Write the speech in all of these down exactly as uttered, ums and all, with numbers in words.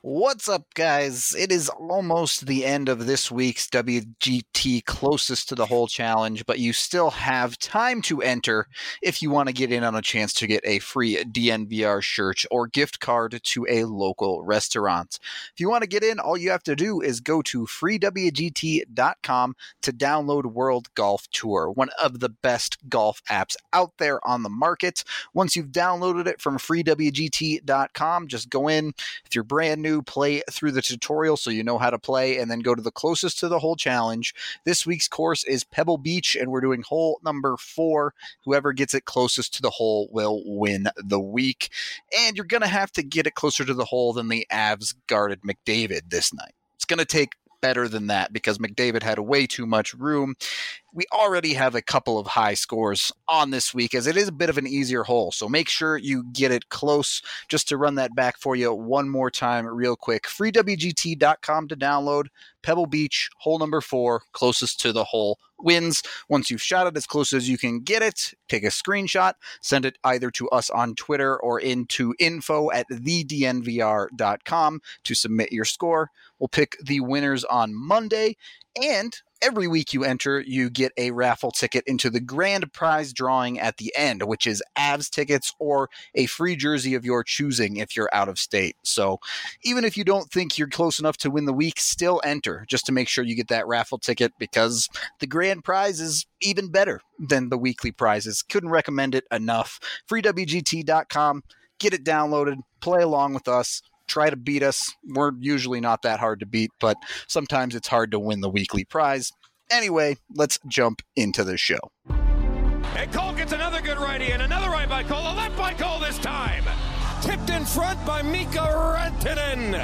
What's up, guys? It is almost the end of this week's W G T Closest to the Hole challenge, but you still have time to enter if you want to get in on a chance to get a free D N V R shirt or gift card to a local restaurant. If you want to get in, all you have to do is go to free W G T dot com to download World Golf Tour, one of the best golf apps out there on the market. Once you've downloaded it from free W G T dot com, just go in. If you're brand new, play through the tutorial so you know how to play, and then go to the closest to the hole challenge. This week's course is Pebble Beach, and we're doing hole number four. Whoever gets it closest to the hole will win the week. And you're going to have to get it closer to the hole than the Avs guarded McDavid this night. It's going to take better than that because McDavid had way too much room. We already have a couple of high scores on this week as it is a bit of an easier hole. So make sure you get it close. Just to run that back for you one more time real quick. free W G T dot com to download. Pebble Beach, hole number four, closest to the hole wins. Once you've shot it as close as you can get it, take a screenshot, send it either to us on Twitter or into info at the D N V R dot com to submit your score. We'll pick the winners on Monday, and every week you enter, you get a raffle ticket into the grand prize drawing at the end, which is Avs tickets or a free jersey of your choosing if you're out of state. So even if you don't think you're close enough to win the week, still enter just to make sure you get that raffle ticket because the grand prize is even better than the weekly prizes. Couldn't recommend it enough. free W G T dot com. Get it downloaded. Play along with us. Try to beat us. We're usually not that hard to beat, but sometimes it's hard to win the weekly prize. Anyway, let's jump into the show. And Cole gets another good righty and another right by Cole. A left by Cole this time. Tipped in front by Mika Rantanen.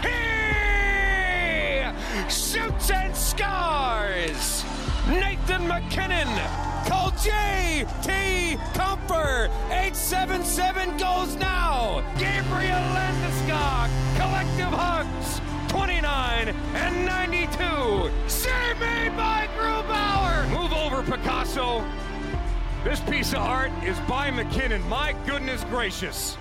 He shoots and scores. Nathan MacKinnon. Cole J T Comfer. eight seven seven goes now. Gabriel Landeskog. Collective hugs. twenty-nine and ninety-two. Save made by Grubauer. Move over, Picasso. This piece of art is by McKinnon. My goodness gracious.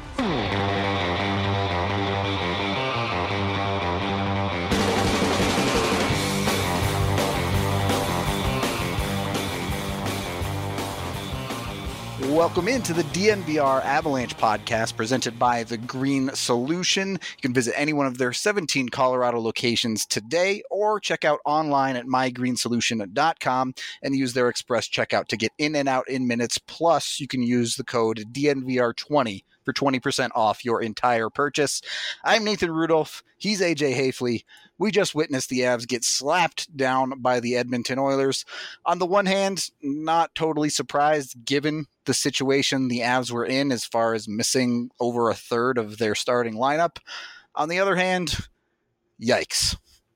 Welcome into the D N V R Avalanche podcast presented by The Green Solution. You can visit any one of their seventeen Colorado locations today or check out online at my green solution dot com and use their express checkout to get in and out in minutes. Plus, you can use the code D N V R twenty for twenty percent off your entire purchase. I'm Nathan Rudolph. He's A J Hafley. We just witnessed the Avs get slapped down by the Edmonton Oilers. On the one hand, not totally surprised given the situation the Avs were in as far as missing over a third of their starting lineup. On the other hand, yikes.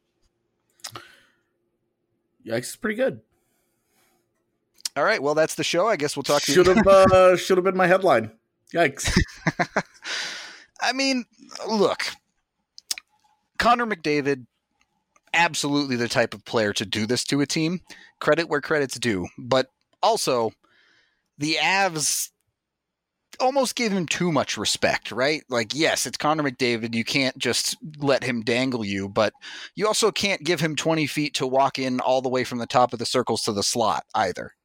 Yikes is pretty good. All right, well, that's the show. I guess we'll talk Should have uh, should have been my headline. Yikes. I mean, look, Connor McDavid, absolutely the type of player to do this to a team. Credit where credit's due. But also, the Avs almost gave him too much respect, right? Like, yes, it's Connor McDavid. You can't just let him dangle you, but you also can't give him twenty feet to walk in all the way from the top of the circles to the slot either.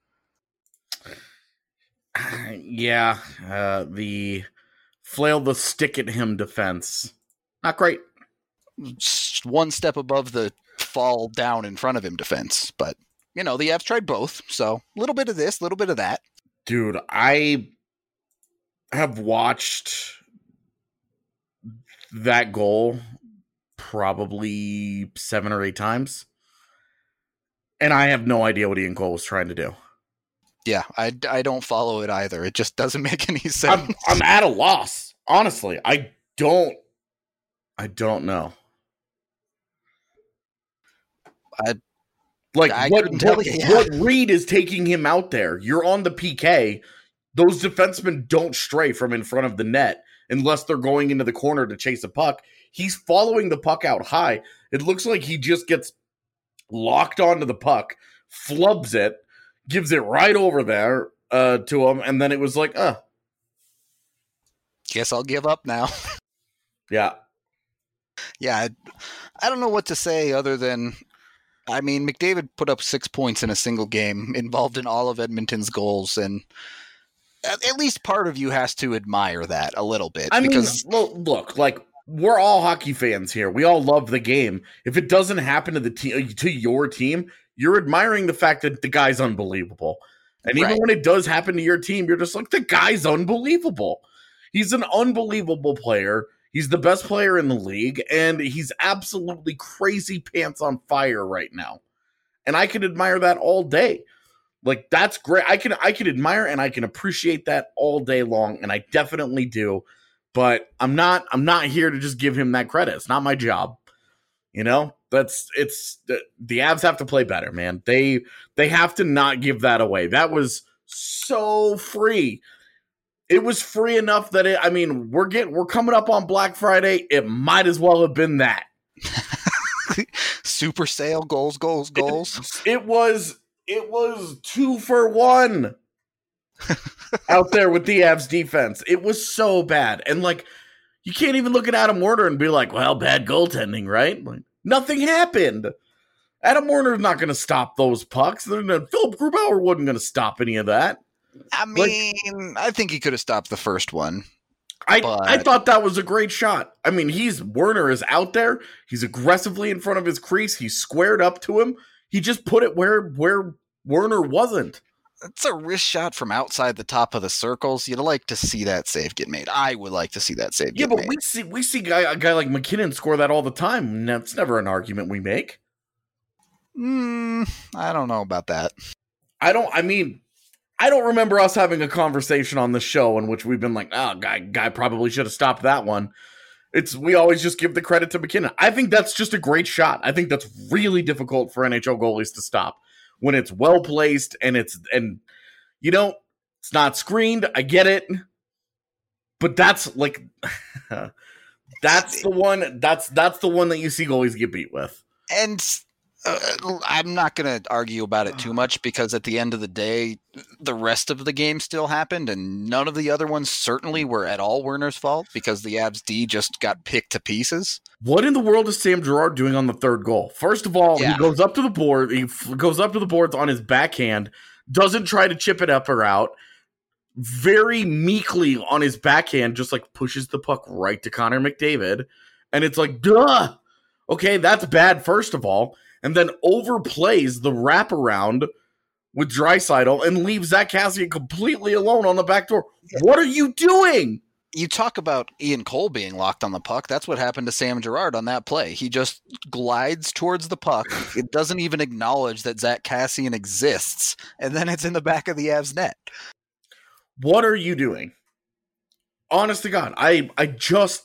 Yeah, uh, the flail the stick at him defense. Not great. One step above the fall down in front of him defense. But, you know, the Avs tried both. So a little bit of this, a little bit of that. Dude, I have watched that goal probably seven or eight times. And I have no idea what Ian Cole was trying to do. Yeah, I, I don't follow it either. It just doesn't make any sense. I'm, I'm at a loss. Honestly, I don't. I don't know. I like I what tell what, you, yeah. what read is taking him out there? You're on the P K. Those defensemen don't stray from in front of the net unless they're going into the corner to chase a puck. He's following the puck out high. It looks like he just gets locked onto the puck, flubs it, gives it right over there uh, to him, and then it was like, uh. Guess I'll give up now. Yeah. Yeah, I, I don't know what to say other than, I mean, McDavid put up six points in a single game, involved in all of Edmonton's goals, and at, at least part of you has to admire that a little bit. I because mean, look, look, like, we're all hockey fans here. We all love the game. If it doesn't happen to the team, to your team, you're admiring the fact that the guy's unbelievable. And even Right. when it does happen to your team, you're just like, the guy's unbelievable. He's an unbelievable player. He's the best player in the league, and he's absolutely crazy pants on fire right now. And I can admire that all day. Like, that's great. I can I can admire and I can appreciate that all day long, and I definitely do. But I'm not I'm not here to just give him that credit. It's not my job. You know? That's it's the, the Avs have to play better, man. They they have to not give that away. That was so free. It was free enough that it I mean, we're getting we're coming up on Black Friday. It might as well have been that. super sale, goals, goals, goals. It, it was it was two for one out there with the Avs defense. It was so bad. And like, you can't even look at Adam Warner and be like, well, bad goaltending, right? Like, nothing happened. Adam Warner's not going to stop those pucks. Philip Grubauer wasn't going to stop any of that. I mean, like, I think he could have stopped the first one. I, but... I thought that was a great shot. I mean, he's Werner is out there. He's aggressively in front of his crease. He's squared up to him. He just put it where where Werner wasn't. It's a wrist shot from outside the top of the circles. You'd like to see that save get made. I would like to see that save yeah, get made. Yeah, but we see we see guy, a guy like McKinnon score that all the time. That's never an argument we make. Mm, I don't know about that. I don't, I mean, I don't remember us having a conversation on the show in which we've been like, oh, guy, guy probably should have stopped that one. It's, we always just give the credit to McKinnon. I think that's just a great shot. I think that's really difficult for N H L goalies to stop when it's well placed and it's, and you know, it's not screened. I get it. But that's like, that's the one, that's, that's the one that you see goalies get beat with. And Uh, I'm not going to argue about it too much because at the end of the day, the rest of the game still happened and none of the other ones certainly were at all Werner's fault because the Avs D just got picked to pieces. What in the world is Sam Girard doing on the third goal? First of all, yeah. he goes up to the board. He f- goes up to the boards on his backhand, doesn't try to chip it up or out. Very meekly on his backhand, just like pushes the puck right to Connor McDavid. And it's like, duh. Okay, that's bad, first of all. And then overplays the wraparound with Draisaitl and leaves Zach Kassian completely alone on the back door. Yeah. What are you doing? You talk about Ian Cole being locked on the puck. That's what happened to Sam Girard on that play. He just glides towards the puck. It doesn't even acknowledge that Zach Kassian exists. And then it's in the back of the Avs net. What are you doing? Honest to God, I, I just...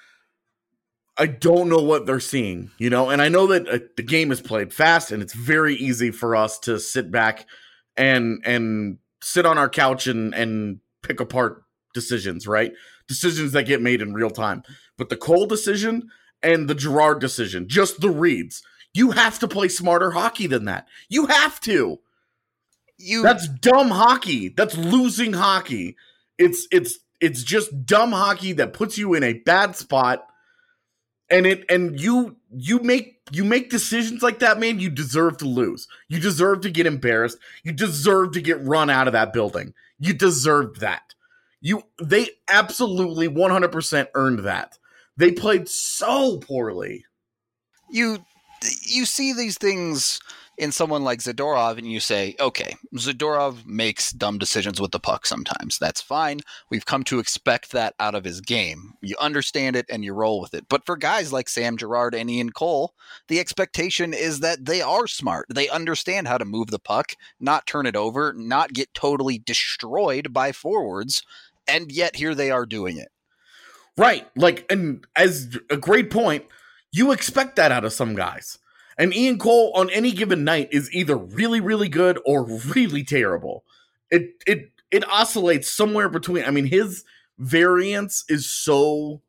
I don't know what they're seeing, you know, and I know that uh, the game is played fast and it's very easy for us to sit back and and sit on our couch and, and pick apart decisions, right? Decisions that get made in real time. But the Cole decision and the Girard decision, just the reads, you have to play smarter hockey than that. You have to. You That's dumb hockey. That's losing hockey. It's it's it's just dumb hockey that puts you in a bad spot. And it and you you make you make decisions like that, man, you deserve to lose. You deserve to get embarrassed. You deserve to get run out of that building. You deserved that. You they absolutely one hundred percent earned that. They played so poorly. You you see these things in someone like Zadorov and you say, okay, Zadorov makes dumb decisions with the puck sometimes. That's fine. We've come to expect that out of his game. You understand it and you roll with it. But for guys like Sam Girard and Ian Cole, the expectation is that they are smart. They understand how to move the puck, not turn it over, not get totally destroyed by forwards. And yet here they are doing it. Right. Like, and as a great point, you expect that out of some guys. And Ian Cole on any given night is either really, really good or really terrible. It it it oscillates somewhere between. I mean, his variance is so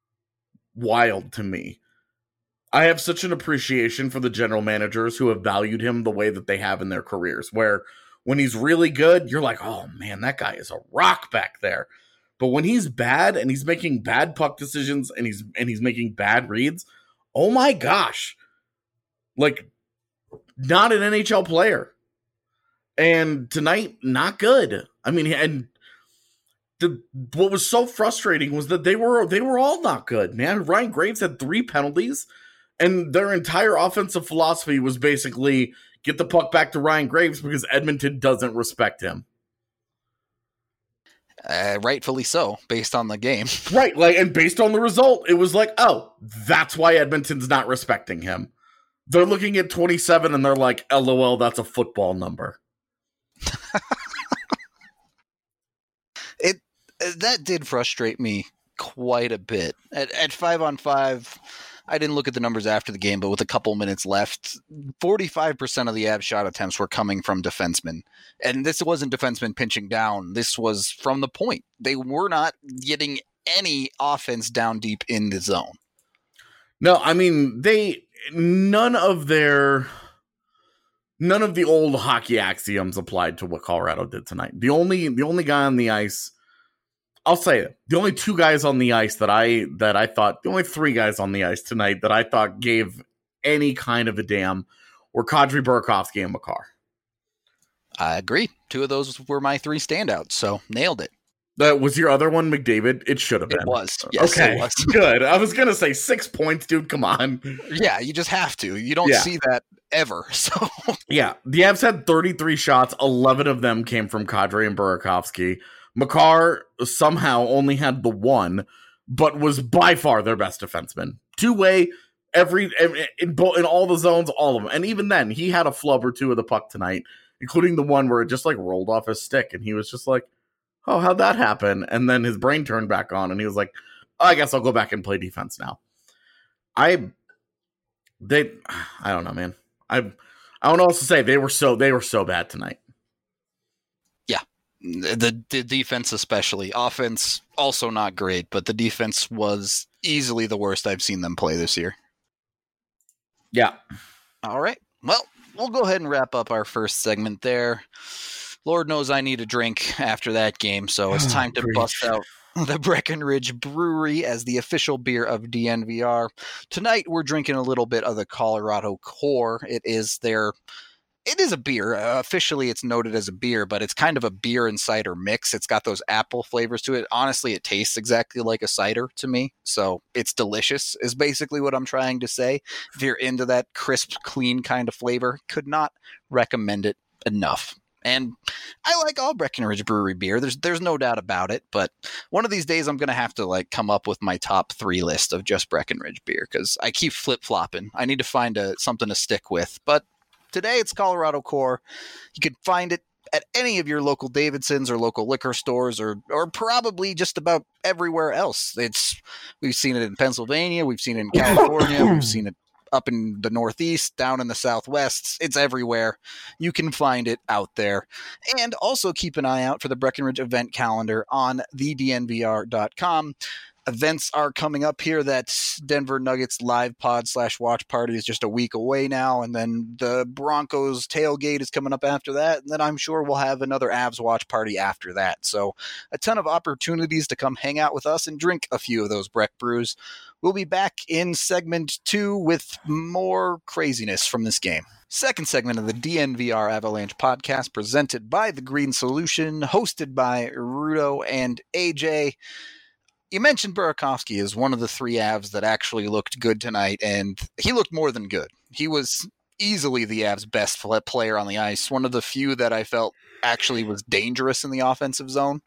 wild to me. I have such an appreciation for the general managers who have valued him the way that they have in their careers, where when he's really good, you're like, oh man, that guy is a rock back there. But when he's bad and he's making bad puck decisions and he's and he's making bad reads, oh my gosh, like not an N H L player. And tonight, not good. I mean, and the what was so frustrating was that they were they were all not good, man. Ryan Graves had three penalties, and their entire offensive philosophy was basically get the puck back to Ryan Graves because Edmonton doesn't respect him. Uh, rightfully so, based on the game. Right, like, and based on the result, it was like, oh, that's why Edmonton's not respecting him. They're looking at twenty-seven, and they're like, LOL, that's a football number. it that did frustrate me quite a bit. At, at five on five, I didn't look at the numbers after the game, but with a couple minutes left, forty-five percent of the Avs shot attempts were coming from defensemen. And this wasn't defensemen pinching down. This was from the point. They were not getting any offense down deep in the zone. No, I mean, they, none of their, none of the old hockey axioms applied to what Colorado did tonight. The only, the only guy on the ice, I'll say it, the only two guys on the ice that I, that I thought, the only three guys on the ice tonight that I thought gave any kind of a damn were Kadri, Burakovsky, and Makar. I agree. Two of those were my three standouts, so nailed it. That was your other one, McDavid? It should have been. It was. Yes, okay, it was. Good. I was going to say six points, dude. Come on. Yeah, you just have to. You don't Yeah. see that ever. So yeah, the Avs had thirty-three shots. eleven of them came from Kadri and Burakovsky. Makar somehow only had the one, but was by far their best defenseman. Two-way, every in, in, in all the zones, all of them. And even then, he had a flub or two of the puck tonight, including the one where it just like rolled off his stick, and he was just like, oh, how'd that happen? And then his brain turned back on, and he was like, oh, I guess I'll go back and play defense now. I, they, I don't know, man. I, I don't know what else to say. They were so, they were so bad tonight. yeah, the, the defense especially. Offense also not great, but the defense was easily the worst I've seen them play this year. Yeah. All right. Well, we'll go ahead and wrap up our first segment there. Lord knows I need a drink after that game, so it's time to Preach. bust out the Breckenridge Brewery as the official beer of D N V R. Tonight, we're drinking a little bit of the Colorado Core. It is their, it is a beer. Uh, officially, it's noted as a beer, but it's kind of a beer and cider mix. It's got those apple flavors to it. Honestly, it tastes exactly like a cider to me, so it's delicious is basically what I'm trying to say. If you're into that crisp, clean kind of flavor, could not recommend it enough. And I like all Breckenridge Brewery beer. There's there's no doubt about it. But one of these days I'm going to have to like come up with my top three list of just Breckenridge beer because I keep flip-flopping. I need to find a, something to stick with. But today it's Colorado Core. You can find it at any of your local Davidsons or local liquor stores or or probably just about everywhere else. It's We've seen it in Pennsylvania. We've seen it in California. We've seen it up in the Northeast, down in the Southwest. It's everywhere. You can find it out there. And also keep an eye out for the Breckenridge event calendar on the D N V R dot com. Events are coming up here. That Denver Nuggets live pod slash watch party is just a week away now. And then the Broncos tailgate is coming up after that. And then I'm sure we'll have another Avs watch party after that. So a ton of opportunities to come hang out with us and drink a few of those Breck brews. We'll be back in segment two with more craziness from this game. Second segment of the D N V R Avalanche podcast presented by The Green Solution, hosted by Rudo and A J. You mentioned Burakovsky as one of the three Avs that actually looked good tonight, and he looked more than good. He was easily the Avs' best player on the ice, one of the few that I felt actually was dangerous in the offensive zone.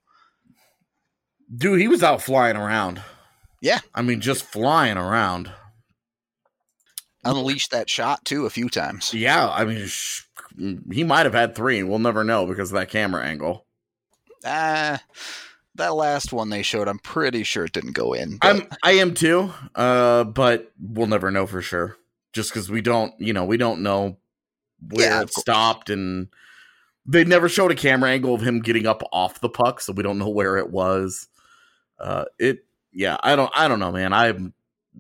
Dude, he was out flying around. Yeah. I mean, just flying around. Unleashed that shot, too, a few times. Yeah, I mean, sh- he might have had three. We'll never know because of that camera angle. Ah... Uh, That last one they showed, I'm pretty sure it didn't go in. But... I'm, I am too, uh, but we'll never know for sure. Just because we don't, you know, we don't know where yeah, it stopped, and they never showed a camera angle of him getting up off the puck, so we don't know where it was. Uh, it, yeah, I don't, I don't know, man. I'm.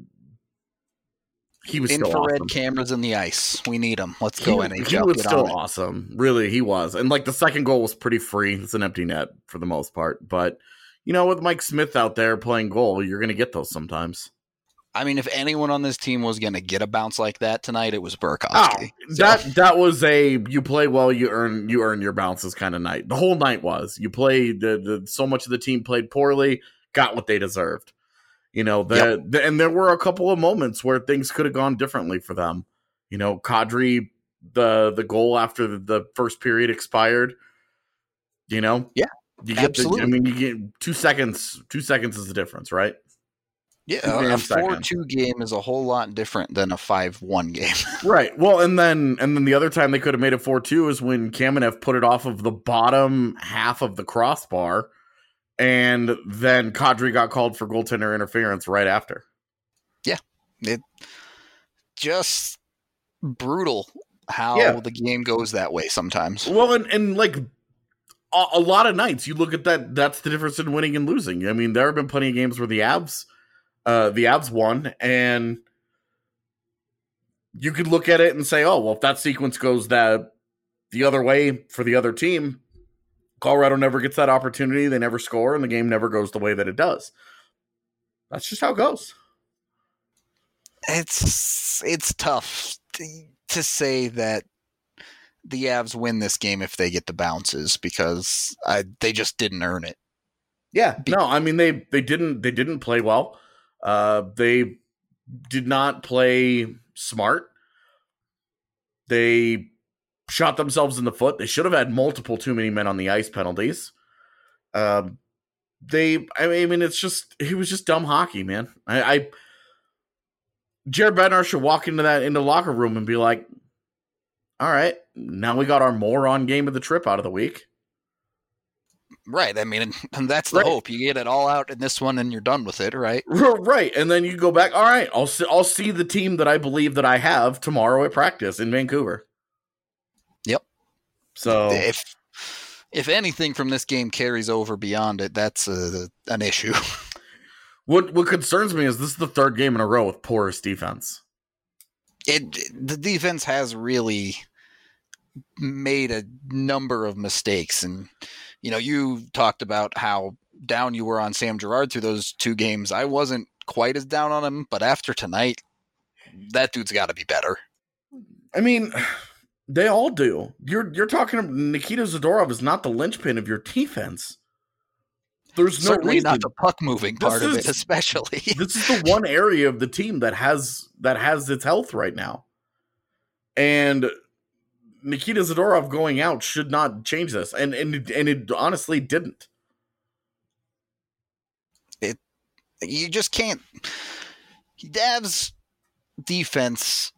He was infrared still awesome. Cameras in the ice. We need them. Let's go, he, N H L. He was Get still on awesome. Really, he was. And like the second goal was pretty free. It's an empty net for the most part. But, you know, with Mike Smith out there playing goal, you're going to get those sometimes. I mean, if anyone on this team was going to get a bounce like that tonight, it was Burakovsky. Oh, so. that that was a you play well, you earn you earn your bounces kind of night. The whole night was you played the, the so much of the team played poorly, got what they deserved. You know, the, yep. the and there were a couple of moments where things could have gone differently for them. You know, Kadri, the the goal after the, the first period expired. You know, yeah, you get absolutely. The, I mean, you get two seconds. Two seconds is the difference, right? Yeah, a four two game is a whole lot different than a five one game. Right. Well, and then and then the other time they could have made it four two is when Kamenev put it off of the bottom half of the crossbar, and then Kadri got called for goaltender interference right after. Yeah. It just brutal how yeah. the game goes that way sometimes. Well, and, and like a, a lot of nights, you look at that, that's the difference in winning and losing. I mean, there have been plenty of games where the Avs Uh, the Avs won, and you could look at it and say, oh, well, if that sequence goes that the other way for the other team, Colorado never gets that opportunity, they never score, and the game never goes the way that it does. That's just how it goes. It's it's tough to, to say that the Avs win this game if they get the bounces, because I, they just didn't earn it. Yeah, no, I mean, they, they didn't they didn't play well. Uh, they did not play smart. They shot themselves in the foot. They should have had multiple too many men on the ice penalties. Um, they, I mean, it's just, it was just dumb hockey, man. I, I Jared Bednar should walk into that, into the locker room and be like, all right, now we got our moron game of the trip out of the week. Right. I mean, and that's the right. hope. You get it all out in this one and you're done with it, right? Right. And then you go back. All right, I'll see, I'll see the team that I believe that I have tomorrow at practice in Vancouver. Yep. So if if anything from this game carries over beyond it, that's a, an issue. What what concerns me is this is the third game in a row with porous defense. It the defense has really made a number of mistakes, and you know, you talked about how down you were on Sam Girard through those two games. I wasn't quite as down on him, but after tonight, that dude's got to be better. I mean, they all do. You're you're talking. Nikita Zadorov is not the linchpin of your defense. There's no Certainly reason. Not the puck moving part this of is, it, especially. This is the one area of the team that has that has its health right now, and Nikita Zadorov going out should not change this, and and and it honestly didn't. It you just can't. Dav's defense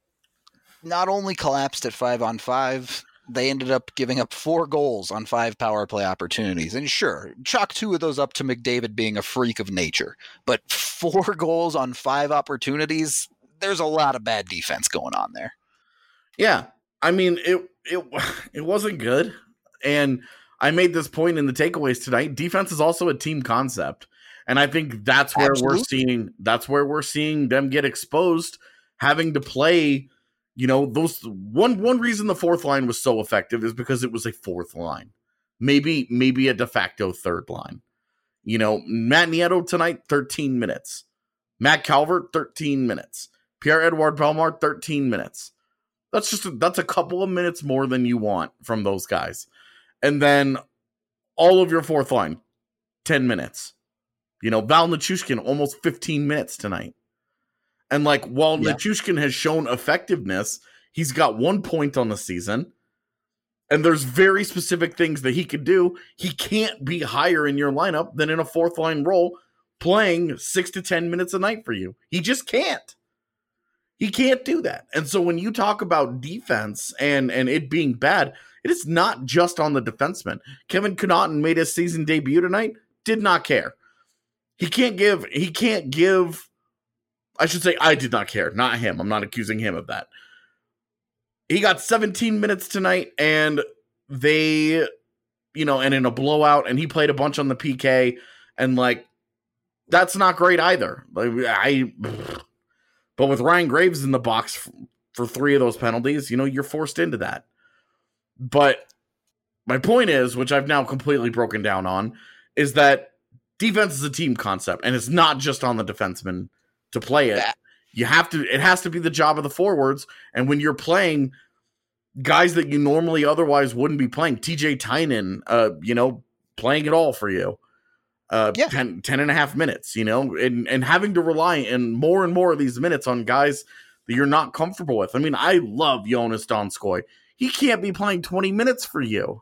not only collapsed at five on five, they ended up giving up four goals on five power play opportunities. And sure, chalk two of those up to McDavid being a freak of nature, but four goals on five opportunities, there's a lot of bad defense going on there. Yeah. I mean, it it it wasn't good, and I made this point in the takeaways tonight. Defense is also a team concept, and I think that's where Absolutely. we're seeing that's where we're seeing them get exposed, having to play. You know, those one one reason the fourth line was so effective is because it was a fourth line, maybe maybe a de facto third line. You know, Matt Nieto tonight, thirteen minutes. Matt Calvert, thirteen minutes. Pierre-Edouard Bellemare, thirteen minutes. That's just a, that's a couple of minutes more than you want from those guys. And then all of your fourth line, ten minutes. You know, Val Nichushkin, almost fifteen minutes tonight. And like, while yeah. Nichushkin has shown effectiveness, he's got one point on the season. And there's very specific things that he could do. He can't be higher in your lineup than in a fourth line role playing six to ten minutes a night for you. He just can't. He can't do that. And so when you talk about defense and, and it being bad, it is not just on the defenseman. Kevin Connaughton made his season debut tonight, did not care. He can't give, he can't give, I should say I did not care, not him. I'm not accusing him of that. He got seventeen minutes tonight, and they, you know, and in a blowout, and he played a bunch on the P K, and like, that's not great either. Like, I, but with Ryan Graves in the box f- for three of those penalties, you know, you're forced into that. But my point is, which I've now completely broken down on, is that defense is a team concept, and it's not just on the defenseman to play it. That- You have to, it has to be the job of the forwards. And when you're playing guys that you normally otherwise wouldn't be playing, T J Tynan, uh, you know, playing it all for you, uh, yeah. ten, ten and a half minutes, you know, and, and having to rely in more and more of these minutes on guys that you're not comfortable with. I mean, I love Jonas Donskoy. He can't be playing twenty minutes for you.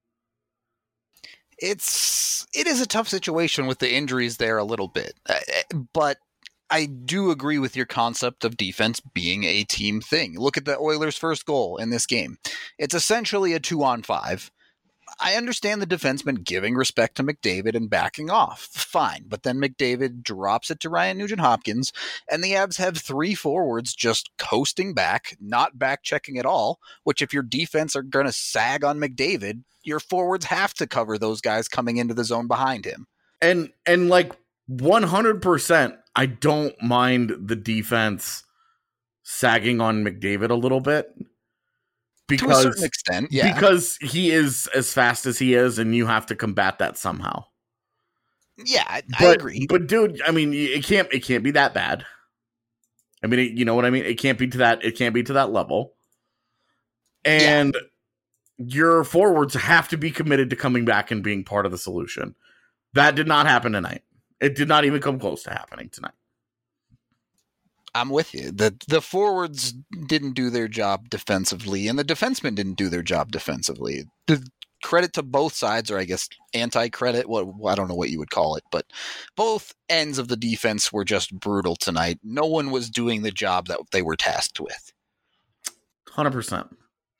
It's, it is a tough situation with the injuries there a little bit, uh, but I do agree with your concept of defense being a team thing. Look at the Oilers' first goal in this game. It's essentially a two on five. I understand the defenseman giving respect to McDavid and backing off. Fine. But then McDavid drops it to Ryan Nugent-Hopkins, and the Avs have three forwards just coasting back, not back checking at all, which if your defense are going to sag on McDavid, your forwards have to cover those guys coming into the zone behind him. And, and like one hundred percent, I don't mind the defense sagging on McDavid a little bit. Because, to a certain extent, yeah. Because he is as fast as he is, and you have to combat that somehow. Yeah, I, but, I agree. But dude, I mean, it can't it can't be that bad. I mean, it, you know what I mean? It can't be to that. It can't be to that level. And yeah. Your forwards have to be committed to coming back and being part of the solution. That did not happen tonight. It did not even come close to happening tonight. I'm with you. The the forwards didn't do their job defensively, and the defensemen didn't do their job defensively. The credit to both sides, or I guess anti-credit, what I don't know what you would call it, but both ends of the defense were just brutal tonight. No one was doing the job that they were tasked with. one hundred percent.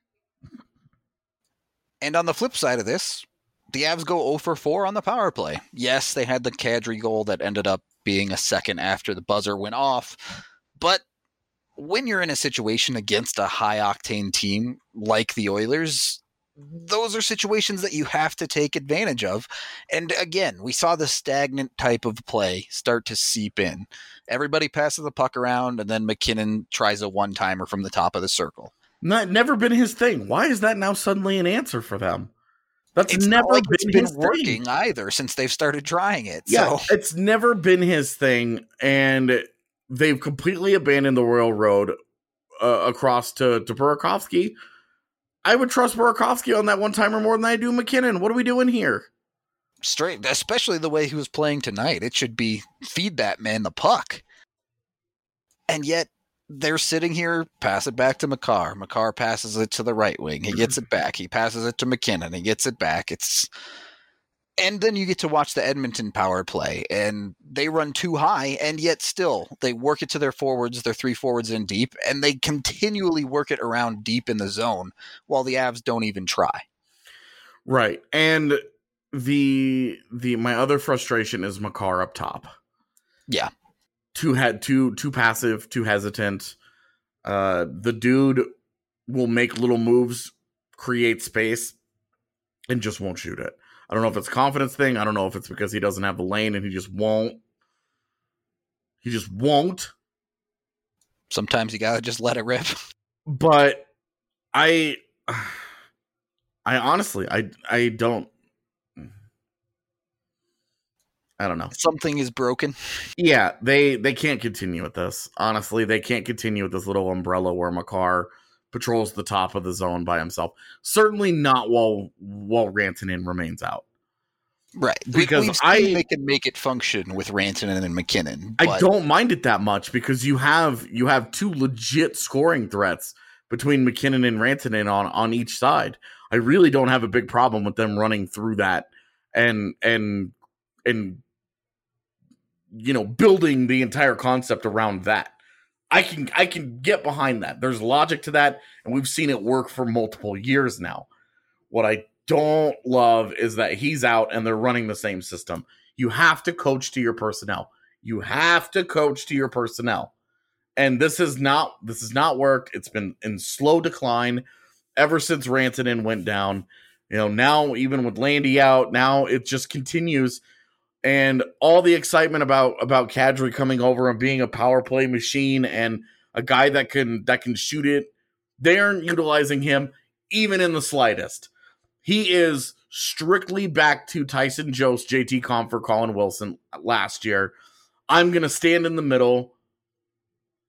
And on the flip side of this, the Avs go zero for four on the power play. Yes, they had the Kadri goal that ended up being a second after the buzzer went off. But when you're in a situation against a high-octane team like the Oilers, those are situations that you have to take advantage of. And again, we saw the stagnant type of play start to seep in. Everybody passes the puck around, and then McKinnon tries a one-timer from the top of the circle. Not never been his thing. Why is that now suddenly an answer for them? That's it's never not like been, it's been his working thing. either since they've started trying it. Yeah, so. It's never been his thing, and they've completely abandoned the Royal Road uh, across to, to Burakovsky. I would trust Burakovsky on that one-timer more than I do McKinnon. What are we doing here? Straight, especially the way he was playing tonight. It should be feed that man the puck. And yet, they're sitting here, pass it back to Makar. Makar passes it to the right wing. He gets it back. He passes it to McKinnon. He gets it back. It's And then you get to watch the Edmonton power play, and they run too high, and yet still they work it to their forwards, their three forwards in deep, and they continually work it around deep in the zone while the Avs don't even try. Right. And the the my other frustration is Makar up top. Yeah. Too had too too passive, too hesitant. Uh, the dude will make little moves, create space, and just won't shoot it. I don't know if it's a confidence thing. I don't know if it's because he doesn't have the lane and he just won't. He just won't. Sometimes you gotta just let it rip. But I, I honestly, I I don't. I don't know. Something is broken. Yeah, they they can't continue with this. Honestly, they can't continue with this little umbrella where Makar patrols the top of the zone by himself. Certainly not while while Rantanen remains out. Right. Because We've I seen they can make it function with Rantanen and McKinnon. I but... don't mind it that much because you have you have two legit scoring threats between McKinnon and Rantanen on, on each side. I really don't have a big problem with them running through that and and and you know, building the entire concept around that. I can I can get behind that. There's logic to that, and we've seen it work for multiple years now. What I don't love is that he's out and they're running the same system. You have to coach to your personnel. You have to coach to your personnel. And this is not this has not worked. It's been in slow decline ever since Rantanen went down. You know, now even with Landy out, now it just continues. And all the excitement about about Kadri coming over and being a power play machine and a guy that can that can shoot it, they aren't utilizing him even in the slightest. He is strictly back to Tyson Jost, J T Compher, Colin Wilson last year. I'm going to stand in the middle,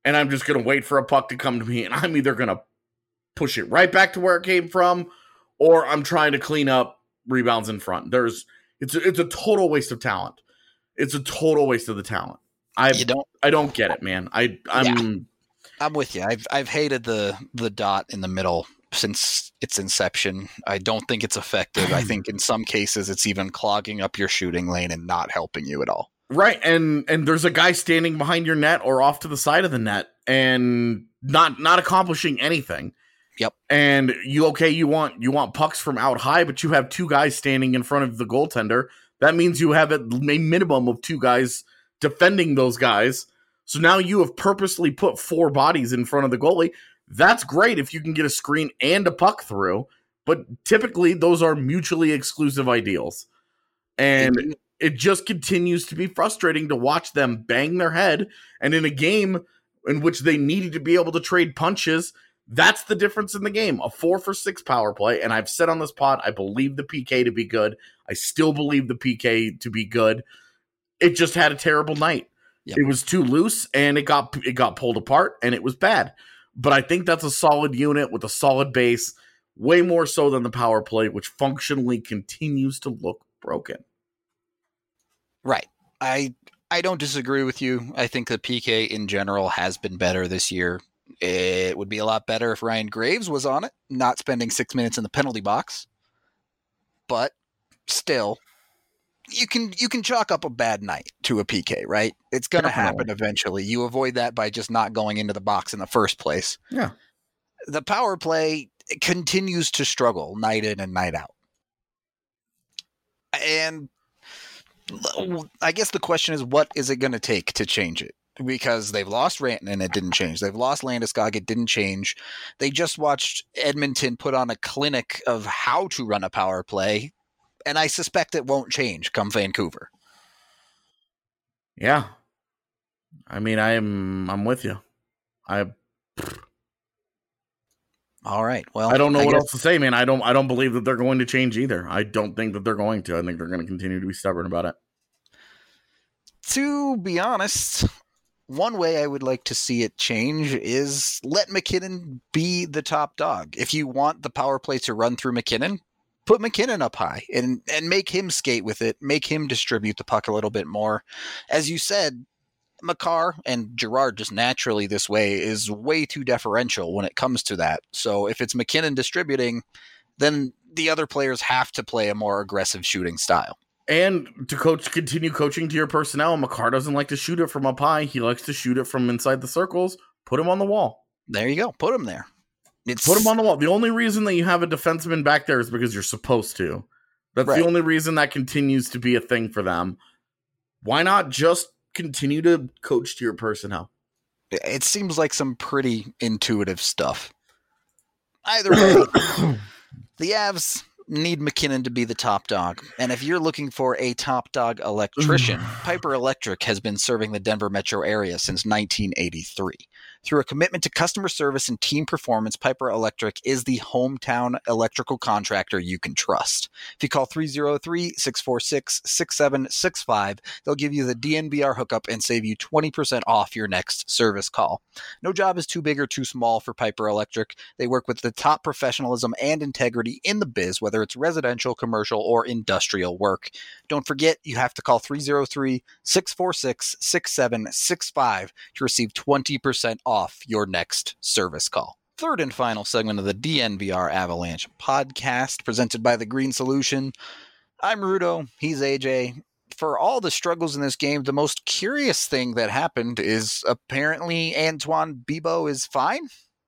and I'm just going to wait for a puck to come to me, and I'm either going to push it right back to where it came from, or I'm trying to clean up rebounds in front. There's it's a, it's a total waste of talent. It's a total waste of the talent. I You don't I don't get it, man. I I'm Yeah. I'm with you. I've I've hated the the dot in the middle since its inception. I don't think it's effective. I think in some cases it's even clogging up your shooting lane and not helping you at all. right, and and there's a guy standing behind your net or off to the side of the net and not not accomplishing anything. Yep. And you okay, you want you want pucks from out high, but you have two guys standing in front of the goaltender. That means you have a minimum of two guys defending those guys. So now you have purposely put four bodies in front of the goalie. That's great if you can get a screen and a puck through, but typically those are mutually exclusive ideals. And it just continues to be frustrating to watch them bang their head. And in a game in which they needed to be able to trade punches, that's the difference in the game. A four for six power play. And I've said on this pod, I believe the P K to be good. I still believe the P K to be good. It just had a terrible night. Yep. It was too loose, and it got it got pulled apart, and it was bad. But I think that's a solid unit with a solid base, way more so than the power play, which functionally continues to look broken. Right. I I don't disagree with you. I think the P K in general has been better this year. It would be a lot better if Ryan Graves was on it, not spending six minutes in the penalty box. But still, you can you can chalk up a bad night to a P K, right? It's going to happen eventually. You avoid that by just not going into the box in the first place. Yeah. The power play continues to struggle night in and night out. And I guess the question is, what is it going to take to change it? Because they've lost Rantanen and it didn't change. They've lost Landeskog, it didn't change. They just watched Edmonton put on a clinic of how to run a power play, and I suspect it won't change come Vancouver. Yeah. I mean, I'm I'm with you. I All right. Well, I don't know I what guess... else to say, man. I don't I don't believe that they're going to change either. I don't think that they're going to. I think they're going to continue to be stubborn about it. To be honest, one way I would like to see it change is let MacKinnon be the top dog. If you want the power play to run through MacKinnon, put MacKinnon up high and, and make him skate with it, make him distribute the puck a little bit more. As you said, Makar and Girard just naturally this way is way too deferential when it comes to that. So if it's MacKinnon distributing, then the other players have to play a more aggressive shooting style. And to coach, continue coaching to your personnel. Makar doesn't like to shoot it from up high. He likes to shoot it from inside the circles. Put him on the wall. There you go. Put him there. It's... Put him on the wall. The only reason that you have a defenseman back there is because you're supposed to. That's right. The only reason that continues to be a thing for them. Why not just continue to coach to your personnel? It seems like some pretty intuitive stuff. Either way, the Avs need MacKinnon to be the top dog. And if you're looking for a top dog electrician, Piper Electric has been serving the Denver metro area since nineteen eighty-three. Through a commitment to customer service and team performance, Piper Electric is the hometown electrical contractor you can trust. If you call three oh three, six four six, six seven six five, they'll give you the D N V R hookup and save you twenty percent off your next service call. No job is too big or too small for Piper Electric. They work with the top professionalism and integrity in the biz, whether it's residential, commercial, or industrial work. Don't forget, you have to call three oh three, six four six, six seven six five to receive twenty percent off your next service call. Third and final segment of the D N V R Avalanche podcast, presented by The Green Solution. I'm Rudo. He's A J. For all the struggles in this game, the most curious thing that happened is apparently Antoine Bibeau is fine.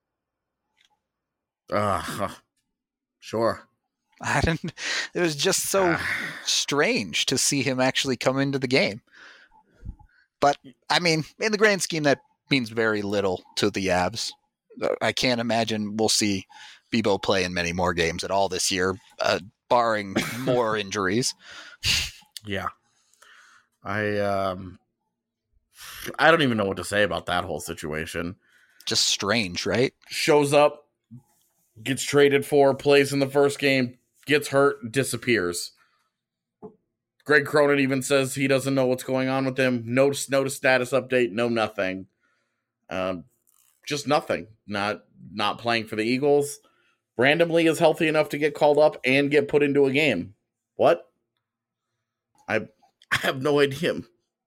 Uh, sure. I didn't. It was just so strange to see him actually come into the game. But, I mean, in the grand scheme, that means very little to the Avs. I can't imagine we'll see Bibeau play in many more games at all this year, uh, barring more injuries. Yeah. I um, I don't even know what to say about that whole situation. Just strange, right? Shows up, gets traded for, plays in the first game, gets hurt, disappears. Greg Cronin even says he doesn't know what's going on with him. No, no status update, no nothing. Um, just nothing. Not not playing for the Eagles. Randomly is healthy enough to get called up and get put into a game. What? I I have no idea.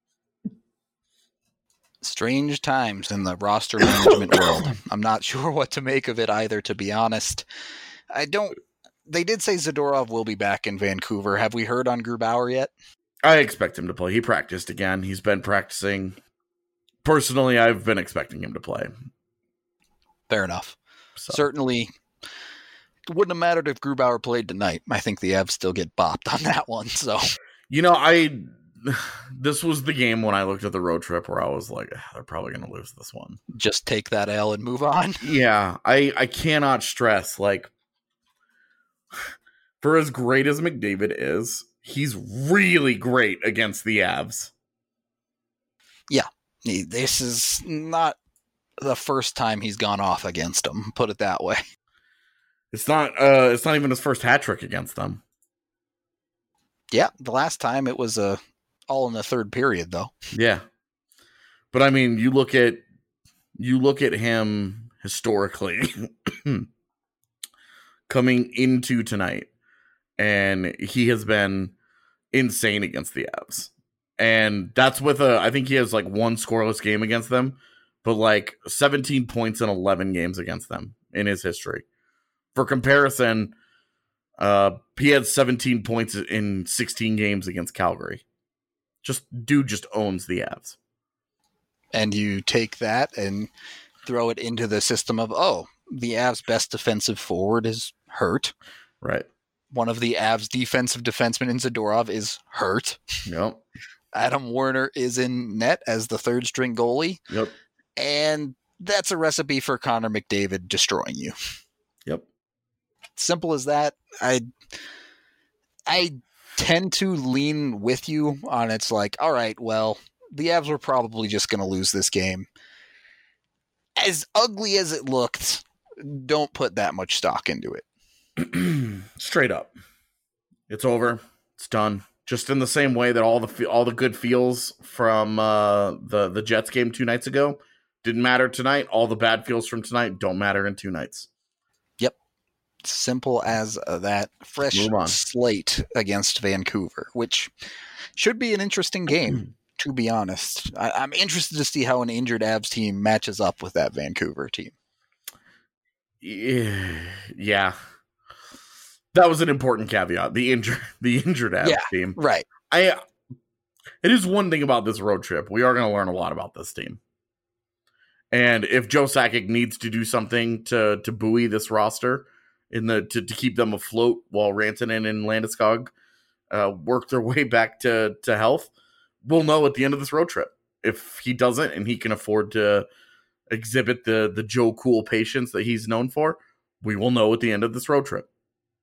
Strange times in the roster management world. I'm not sure what to make of it either, to be honest. I don't. They did say Zadorov will be back in Vancouver. Have we heard on Grubauer yet? I expect him to play. He practiced again. He's been practicing. Personally, I've been expecting him to play. Fair enough. So. Certainly, it wouldn't have mattered if Grubauer played tonight. I think the Avs still get bopped on that one. So, you know, I this was the game when I looked at the road trip where I was like, they're probably going to lose this one. Just take that L and move on. Yeah, I I cannot stress, like, for as great as McDavid is, he's really great against the Avs. Yeah, this is not the first time he's gone off against them. Put it that way. It's not. Uh, it's not even his first hat trick against them. Yeah, the last time it was uh, all in the third period, though. Yeah, but I mean, you look at you look at him historically coming into tonight, and he has been insane against the Avs. And that's with a, I think he has like one scoreless game against them, but like seventeen points in eleven games against them in his history. For comparison, uh, he had seventeen points in sixteen games against Calgary. Just dude just owns the Avs. And you take that and throw it into the system of, oh, the Avs' best defensive forward is hurt. Right. One of the Avs' defensive defensemen in Zadorov is hurt. Yep. Adam Warner is in net as the third string goalie. Yep. And that's a recipe for Connor McDavid destroying you. Yep. Simple as that. I I tend to lean with you on it's like, all right, well, the Avs were probably just going to lose this game. As ugly as it looked, don't put that much stock into it. Straight up. It's over. It's done. Just in the same way that all the all the good feels from uh, the the Jets game two nights ago didn't matter tonight. All the bad feels from tonight don't matter in two nights. Yep, simple as uh, that. Fresh slate against Vancouver, which should be an interesting game. To be honest, I, I'm interested to see how an injured Avs team matches up with that Vancouver team. Yeah. That was an important caveat. The injured, the injured Avs yeah, team, right? I. It is one thing about this road trip. We are going to learn a lot about this team, and if Joe Sakic needs to do something to to buoy this roster in the to, to keep them afloat while Rantanen and Landeskog uh, work their way back to to health, we'll know at the end of this road trip. If he doesn't, and he can afford to exhibit the the Joe Cool patience that he's known for, we will know at the end of this road trip.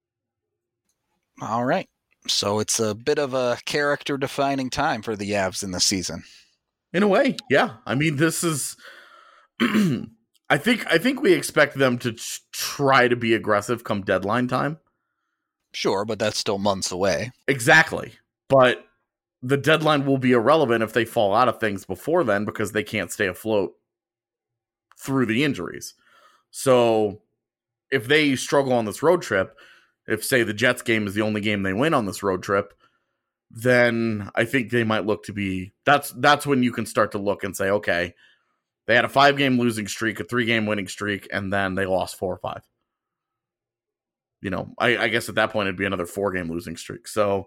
All right. So it's a bit of a character-defining time for the Avs in the season. In a way, yeah. I mean, this is... I think I think we expect them to ch- try to be aggressive come deadline time. Sure, but that's still months away. Exactly. But the deadline will be irrelevant if they fall out of things before then because they can't stay afloat through the injuries. So if they struggle on this road trip... If, say, the Jets game is the only game they win on this road trip, then I think they might look to be... That's that's when you can start to look and say, okay, they had a five-game losing streak, a three-game winning streak, and then they lost four or five. You know, I, I guess at that point it'd be another four-game losing streak. So,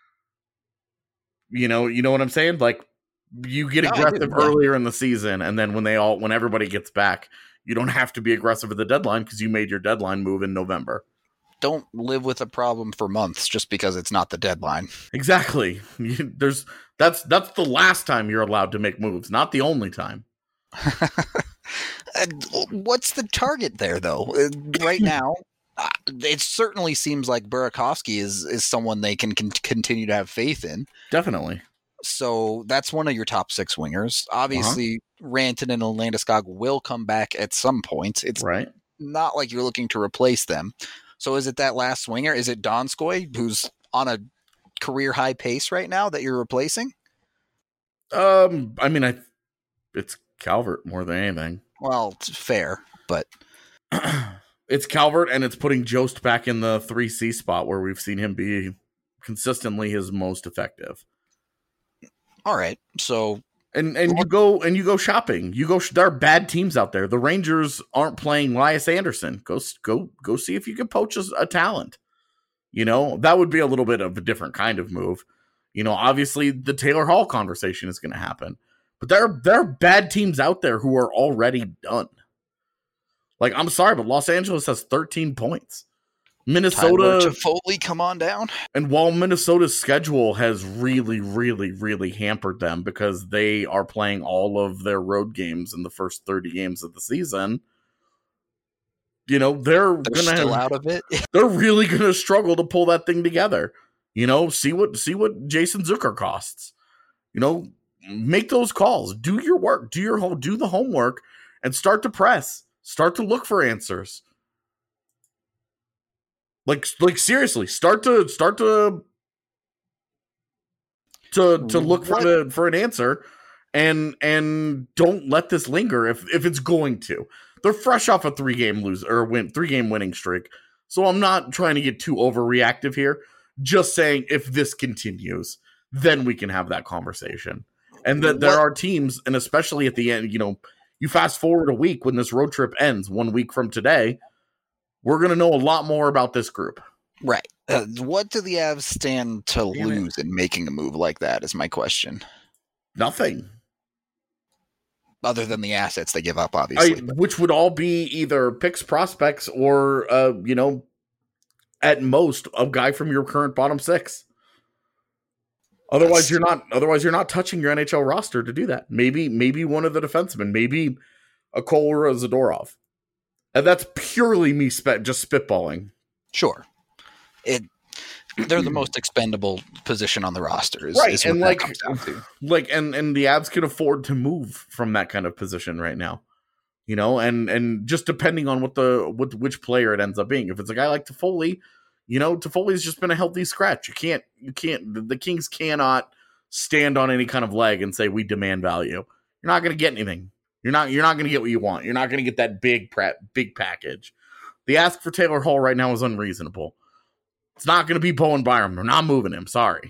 you know, you know what I'm saying? Like, you get aggressive no, earlier in the season, and then when they all when everybody gets back, you don't have to be aggressive at the deadline because you made your deadline move in November. Don't live with a problem for months just because it's not the deadline. Exactly. There's that's that's the last time you're allowed to make moves, not the only time. What's the target there, though? Right now, it certainly seems like Burakovsky is is someone they can, can continue to have faith in. Definitely. So that's one of your top six wingers. Obviously, uh-huh. Rantanen and Landeskog will come back at some point. It's right. Not like you're looking to replace them. So is it that last swinger? Is it Donskoy, who's on a career high pace right now, that you're replacing? Um, I mean, I it's Calvert more than anything. Well, it's fair, but it's Calvert, and it's putting Jost back in the three C spot where we've seen him be consistently his most effective. All right, so and and you go and you go shopping. You go. There are bad teams out there. The Rangers aren't playing Elias Anderson. Go go go see if you can poach a, a talent. You know, that would be a little bit of a different kind of move. You know, obviously the Taylor Hall conversation is going to happen, but there are, there are bad teams out there who are already done. Like, I'm sorry, but Los Angeles has thirteen points. Minnesota to Foley, come on down. And while Minnesota's schedule has really, really, really hampered them because they are playing all of their road games in the first thirty games of the season, you know, they're, they're gonna still have, out of it. They're really gonna struggle to pull that thing together. You know, see what see what Jason Zucker costs. You know, make those calls, do your work, do your whole do the homework, and start to press. Start to look for answers. Like, like seriously, start to start to to to look for the for an answer, and and don't let this linger if if it's going to. They're fresh off a three game lose or win three game winning streak, so I'm not trying to get too overreactive here. Just saying, if this continues, then we can have that conversation, and that there are teams, and especially at the end, you know, you fast forward a week when this road trip ends, one week from today. We're going to know a lot more about this group. Right. Uh, what do the Avs stand to Damn lose it. in making a move like that is my question. Nothing. Other than the assets they give up, obviously. I, which would all be either picks, prospects, or, uh, you know, at most, a guy from your current bottom six. Otherwise, That's... you're not. Otherwise, you're not touching your N H L roster to do that. Maybe, maybe one of the defensemen. Maybe a Cole or a Zadorov. And that's purely me spe- just spitballing. Sure. It they're the most expendable position on the roster. Is, right. is and like, like, and, and the Avs can afford to move from that kind of position right now, you know, and, and just depending on what the, what, which player it ends up being. If it's a guy like Toffoli, you know, Toffoli's just been a healthy scratch. You can't, you can't, the Kings cannot stand on any kind of leg and say, we demand value. You're not going to get anything. You're not you're not going to get what you want. You're not going to get that big big package. The ask for Taylor Hall right now is unreasonable. It's not going to be Bowen Byram. They're not moving him. Sorry.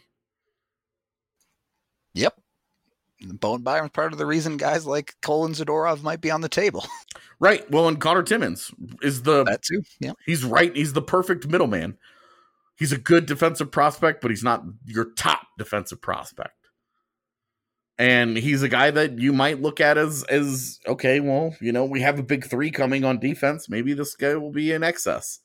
Yep. Bowen Byram's part of the reason guys like Cole and Zadorov might be on the table. Right. Well, and Connor Timmins is the that too. Yeah. He's right. He's the perfect middleman. He's a good defensive prospect, but he's not your top defensive prospect. And he's a guy that you might look at as, as okay, well, you know, we have a big three coming on defense. Maybe this guy will be in excess.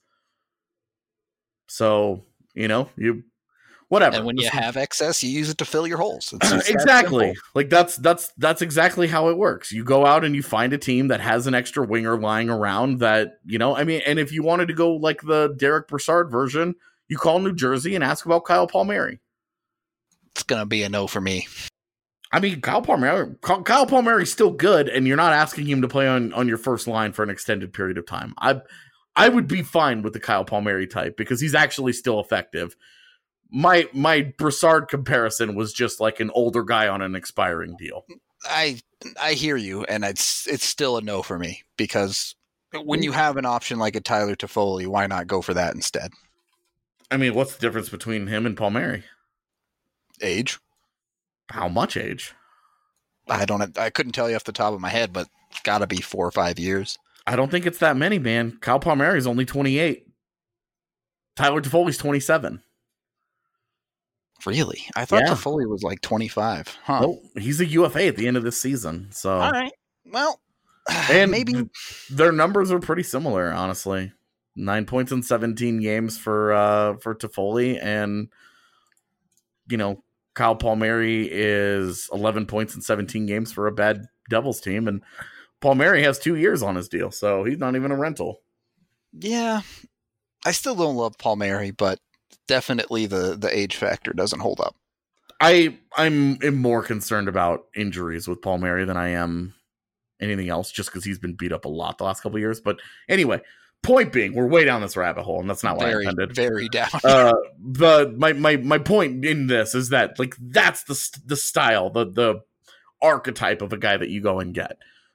So, you know, you, whatever. And when you have excess, you use it to fill your holes. It's, it's exactly. That like that's, that's, that's exactly how it works. You go out and you find a team that has an extra winger lying around that, you know, I mean, and if you wanted to go like the Derek Brassard version, you call New Jersey and ask about Kyle Palmieri. It's going to be a no for me. I mean, Kyle Palmieri, Kyle Palmieri's still good, and you're not asking him to play on, on your first line for an extended period of time. I I would be fine with the Kyle Palmieri type because he's actually still effective. My my Brassard comparison was just like an older guy on an expiring deal. I I hear you, and it's it's still a no for me because when you have an option like a Tyler Toffoli, why not go for that instead? I mean, what's the difference between him and Palmieri? Age. How much age? I don't. I couldn't tell you off the top of my head, but it's got to be four or five years. I don't think it's that many, man. Kyle Palmieri is only twenty-eight. Tyler Toffoli's twenty-seven. Really? I thought yeah. Toffoli was like twenty-five. Huh? Well, he's a U F A at the end of this season. So, all right. Well, and maybe their numbers are pretty similar, honestly. Nine points in seventeen games for uh, for Toffoli, and you know. Kyle Palmieri is eleven points in seventeen games for a bad Devils team, and Palmieri has two years on his deal, so he's not even a rental. Yeah, I still don't love Palmieri, but definitely the, the age factor doesn't hold up. I I'm am more concerned about injuries with Palmieri than I am anything else, just because he's been beat up a lot the last couple of years. But anyway. Point being, we're way down this rabbit hole, and that's not what very, I intended. Very down. uh, the my my my point in this is that like that's the the style, the the archetype of a guy that you go and get.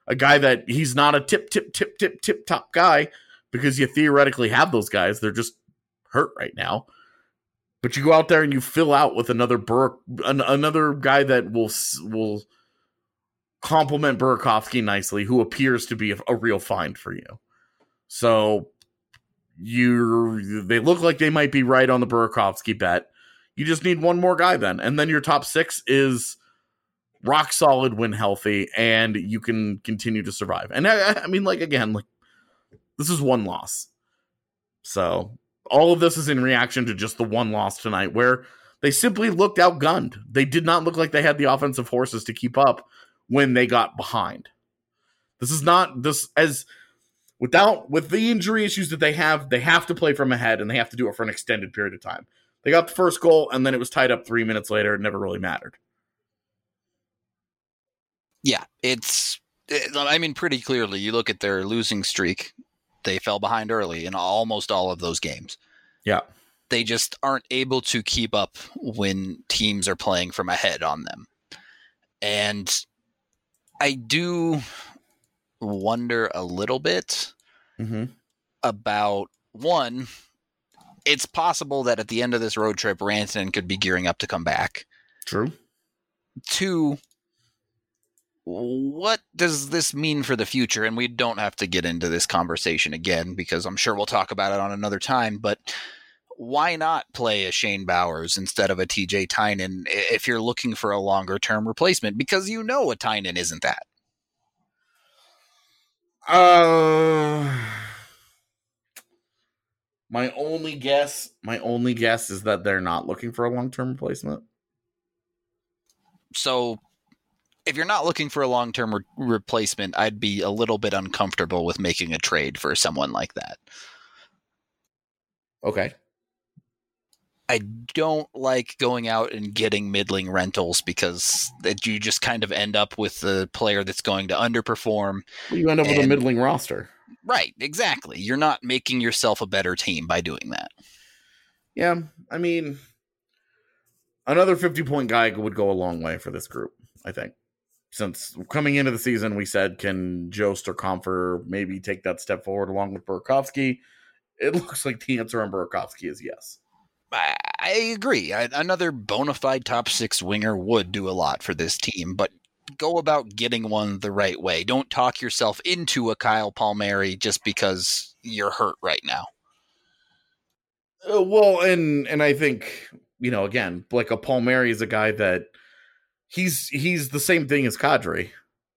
a guy that he's not a tip, tip, tip, tip, tip top guy because you theoretically have those guys. They're just hurt right now. But you go out there and you fill out with another Bur- an- another guy that will will complement Burakovsky nicely, who appears to be a, a real find for you. So you they look like they might be right on the Burakovsky bet. You just need one more guy then, and then your top six is rock solid when healthy, and you can continue to survive. And I, I mean, like again, like this is one loss, so. All of this is in reaction to just the one loss tonight where they simply looked outgunned. They did not look like they had the offensive horses to keep up when they got behind. This is not this as without with the injury issues that they have, they have to play from ahead and they have to do it for an extended period of time. They got the first goal and then it was tied up three minutes later. It never really mattered. Yeah, it's, I mean, pretty clearly you look at their losing streak. They fell behind early in almost all of those games. Yeah. They just aren't able to keep up when teams are playing from ahead on them. And I do wonder a little bit mm-hmm. about, one, it's possible that at the end of this road trip, Rantanen could be gearing up to come back. True. Two, what does this mean for the future? And we don't have to get into this conversation again because I'm sure we'll talk about it on another time, but why not play a Shane Bowers instead of a T J Tynan if you're looking for a longer term replacement? Because you know a Tynan isn't that. Uh, my only guess, my only guess is that they're not looking for a long-term replacement. So if you're not looking for a long-term re- replacement, I'd be a little bit uncomfortable with making a trade for someone like that. Okay. I don't like going out and getting middling rentals because that you just kind of end up with a player that's going to underperform. Well, you end up and, with a middling roster. Right, exactly. You're not making yourself a better team by doing that. Yeah, I mean, another fifty-point guy would go a long way for this group, I think. Since coming into the season, we said, can Jost or Compher maybe take that step forward along with Burakovsky? It looks like the answer on Burakovsky is yes. I, I agree. I, another bona fide top six winger would do a lot for this team, but go about getting one the right way. Don't talk yourself into a Kyle Palmieri just because you're hurt right now. Uh, well, and and I think, you know, again, like a Palmieri is a guy that He's he's the same thing as Kadri,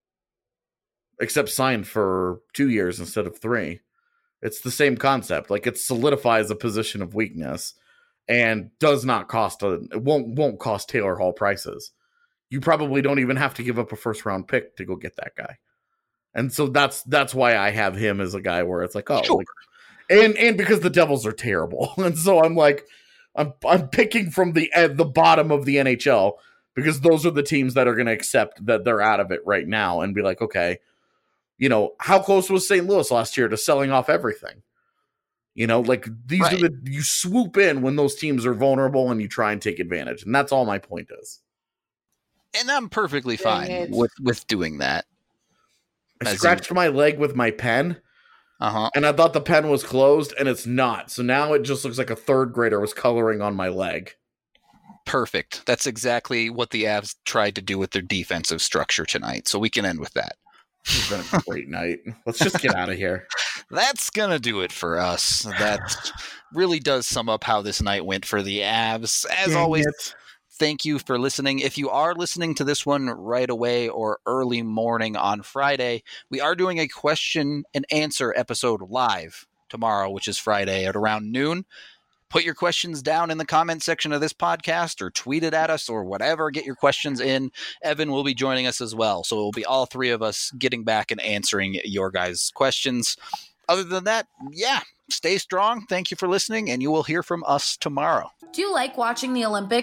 except signed for two years instead of three. It's the same concept. Like it solidifies a position of weakness and does not cost a it won't won't cost Taylor Hall prices. You probably don't even have to give up a first round pick to go get that guy. And so that's that's why I have him as a guy where it's like, oh, sure. like, and and because the Devils are terrible, and so I'm like, I'm I'm picking from the uh, the bottom of the N H L. Because those are the teams that are going to accept that they're out of it right now and be like, okay, you know, how close was Saint Louis last year to selling off everything? You know, like these right. are the, you swoop in when those teams are vulnerable and you try and take advantage. And that's all my point is. And I'm perfectly fine with, with doing that. I scratched in- my leg with my pen. Uh-huh. And I thought the pen was closed and it's not. So now it just looks like a third grader was coloring on my leg. Perfect. That's exactly what the Avs tried to do with their defensive structure tonight. So we can end with that. It's been a great night. Let's just get out of here. That's going to do it for us. That really does sum up how this night went for the Avs. As Dang always, it. Thank you for listening. If you are listening to this one right away or early morning on Friday, we are doing a question and answer episode live tomorrow, which is Friday at around noon. Put your questions down in the comment section of this podcast or tweet it at us or whatever. Get your questions in. Evan will be joining us as well. So it will be all three of us getting back and answering your guys' questions. Other than that, yeah, stay strong. Thank you for listening, and you will hear from us tomorrow. Do you like watching the Olympics?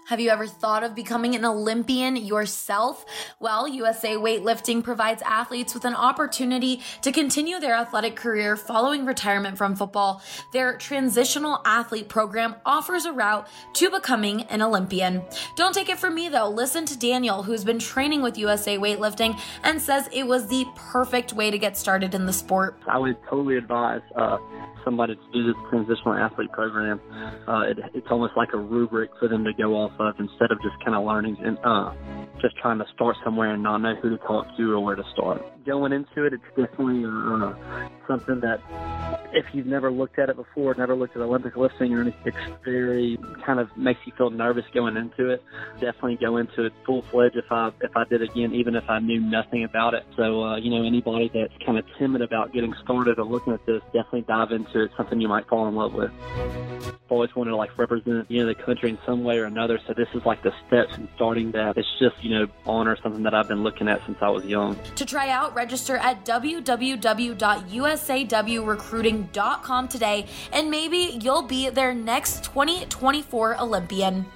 Have you ever thought of becoming an Olympian yourself? Well, U S A Weightlifting provides athletes with an opportunity to continue their athletic career following retirement from football. Their transitional athlete program offers a route to becoming an Olympian. Don't take it from me though. Listen to Daniel, who's been training with U S A Weightlifting and says it was the perfect way to get started in the sport. I would totally advise uh, somebody to do the transitional athlete program. Uh, it, it's almost like a rubric for them to go off of instead of just kind of learning and uh, just trying to start somewhere and not know who to talk to or where to start. Going into it, it's definitely uh, something that if you've never looked at it before, never looked at Olympic lifting or anything, it's very kind of makes you feel nervous going into it. Definitely go into it full-fledged if I if I did again, even if I knew nothing about it. So, uh, you know, anybody that's kind of timid about getting started or looking at this, definitely dive into it. Something you might fall in love with. I've always wanted to like represent, you know, the country in some way or another. So this is like the steps in starting that. It's just, you know, honor something that I've been looking at since I was young. To try out, register at w w w dot u s a w recruiting dot com today, and maybe you'll be their next twenty twenty-four Olympian.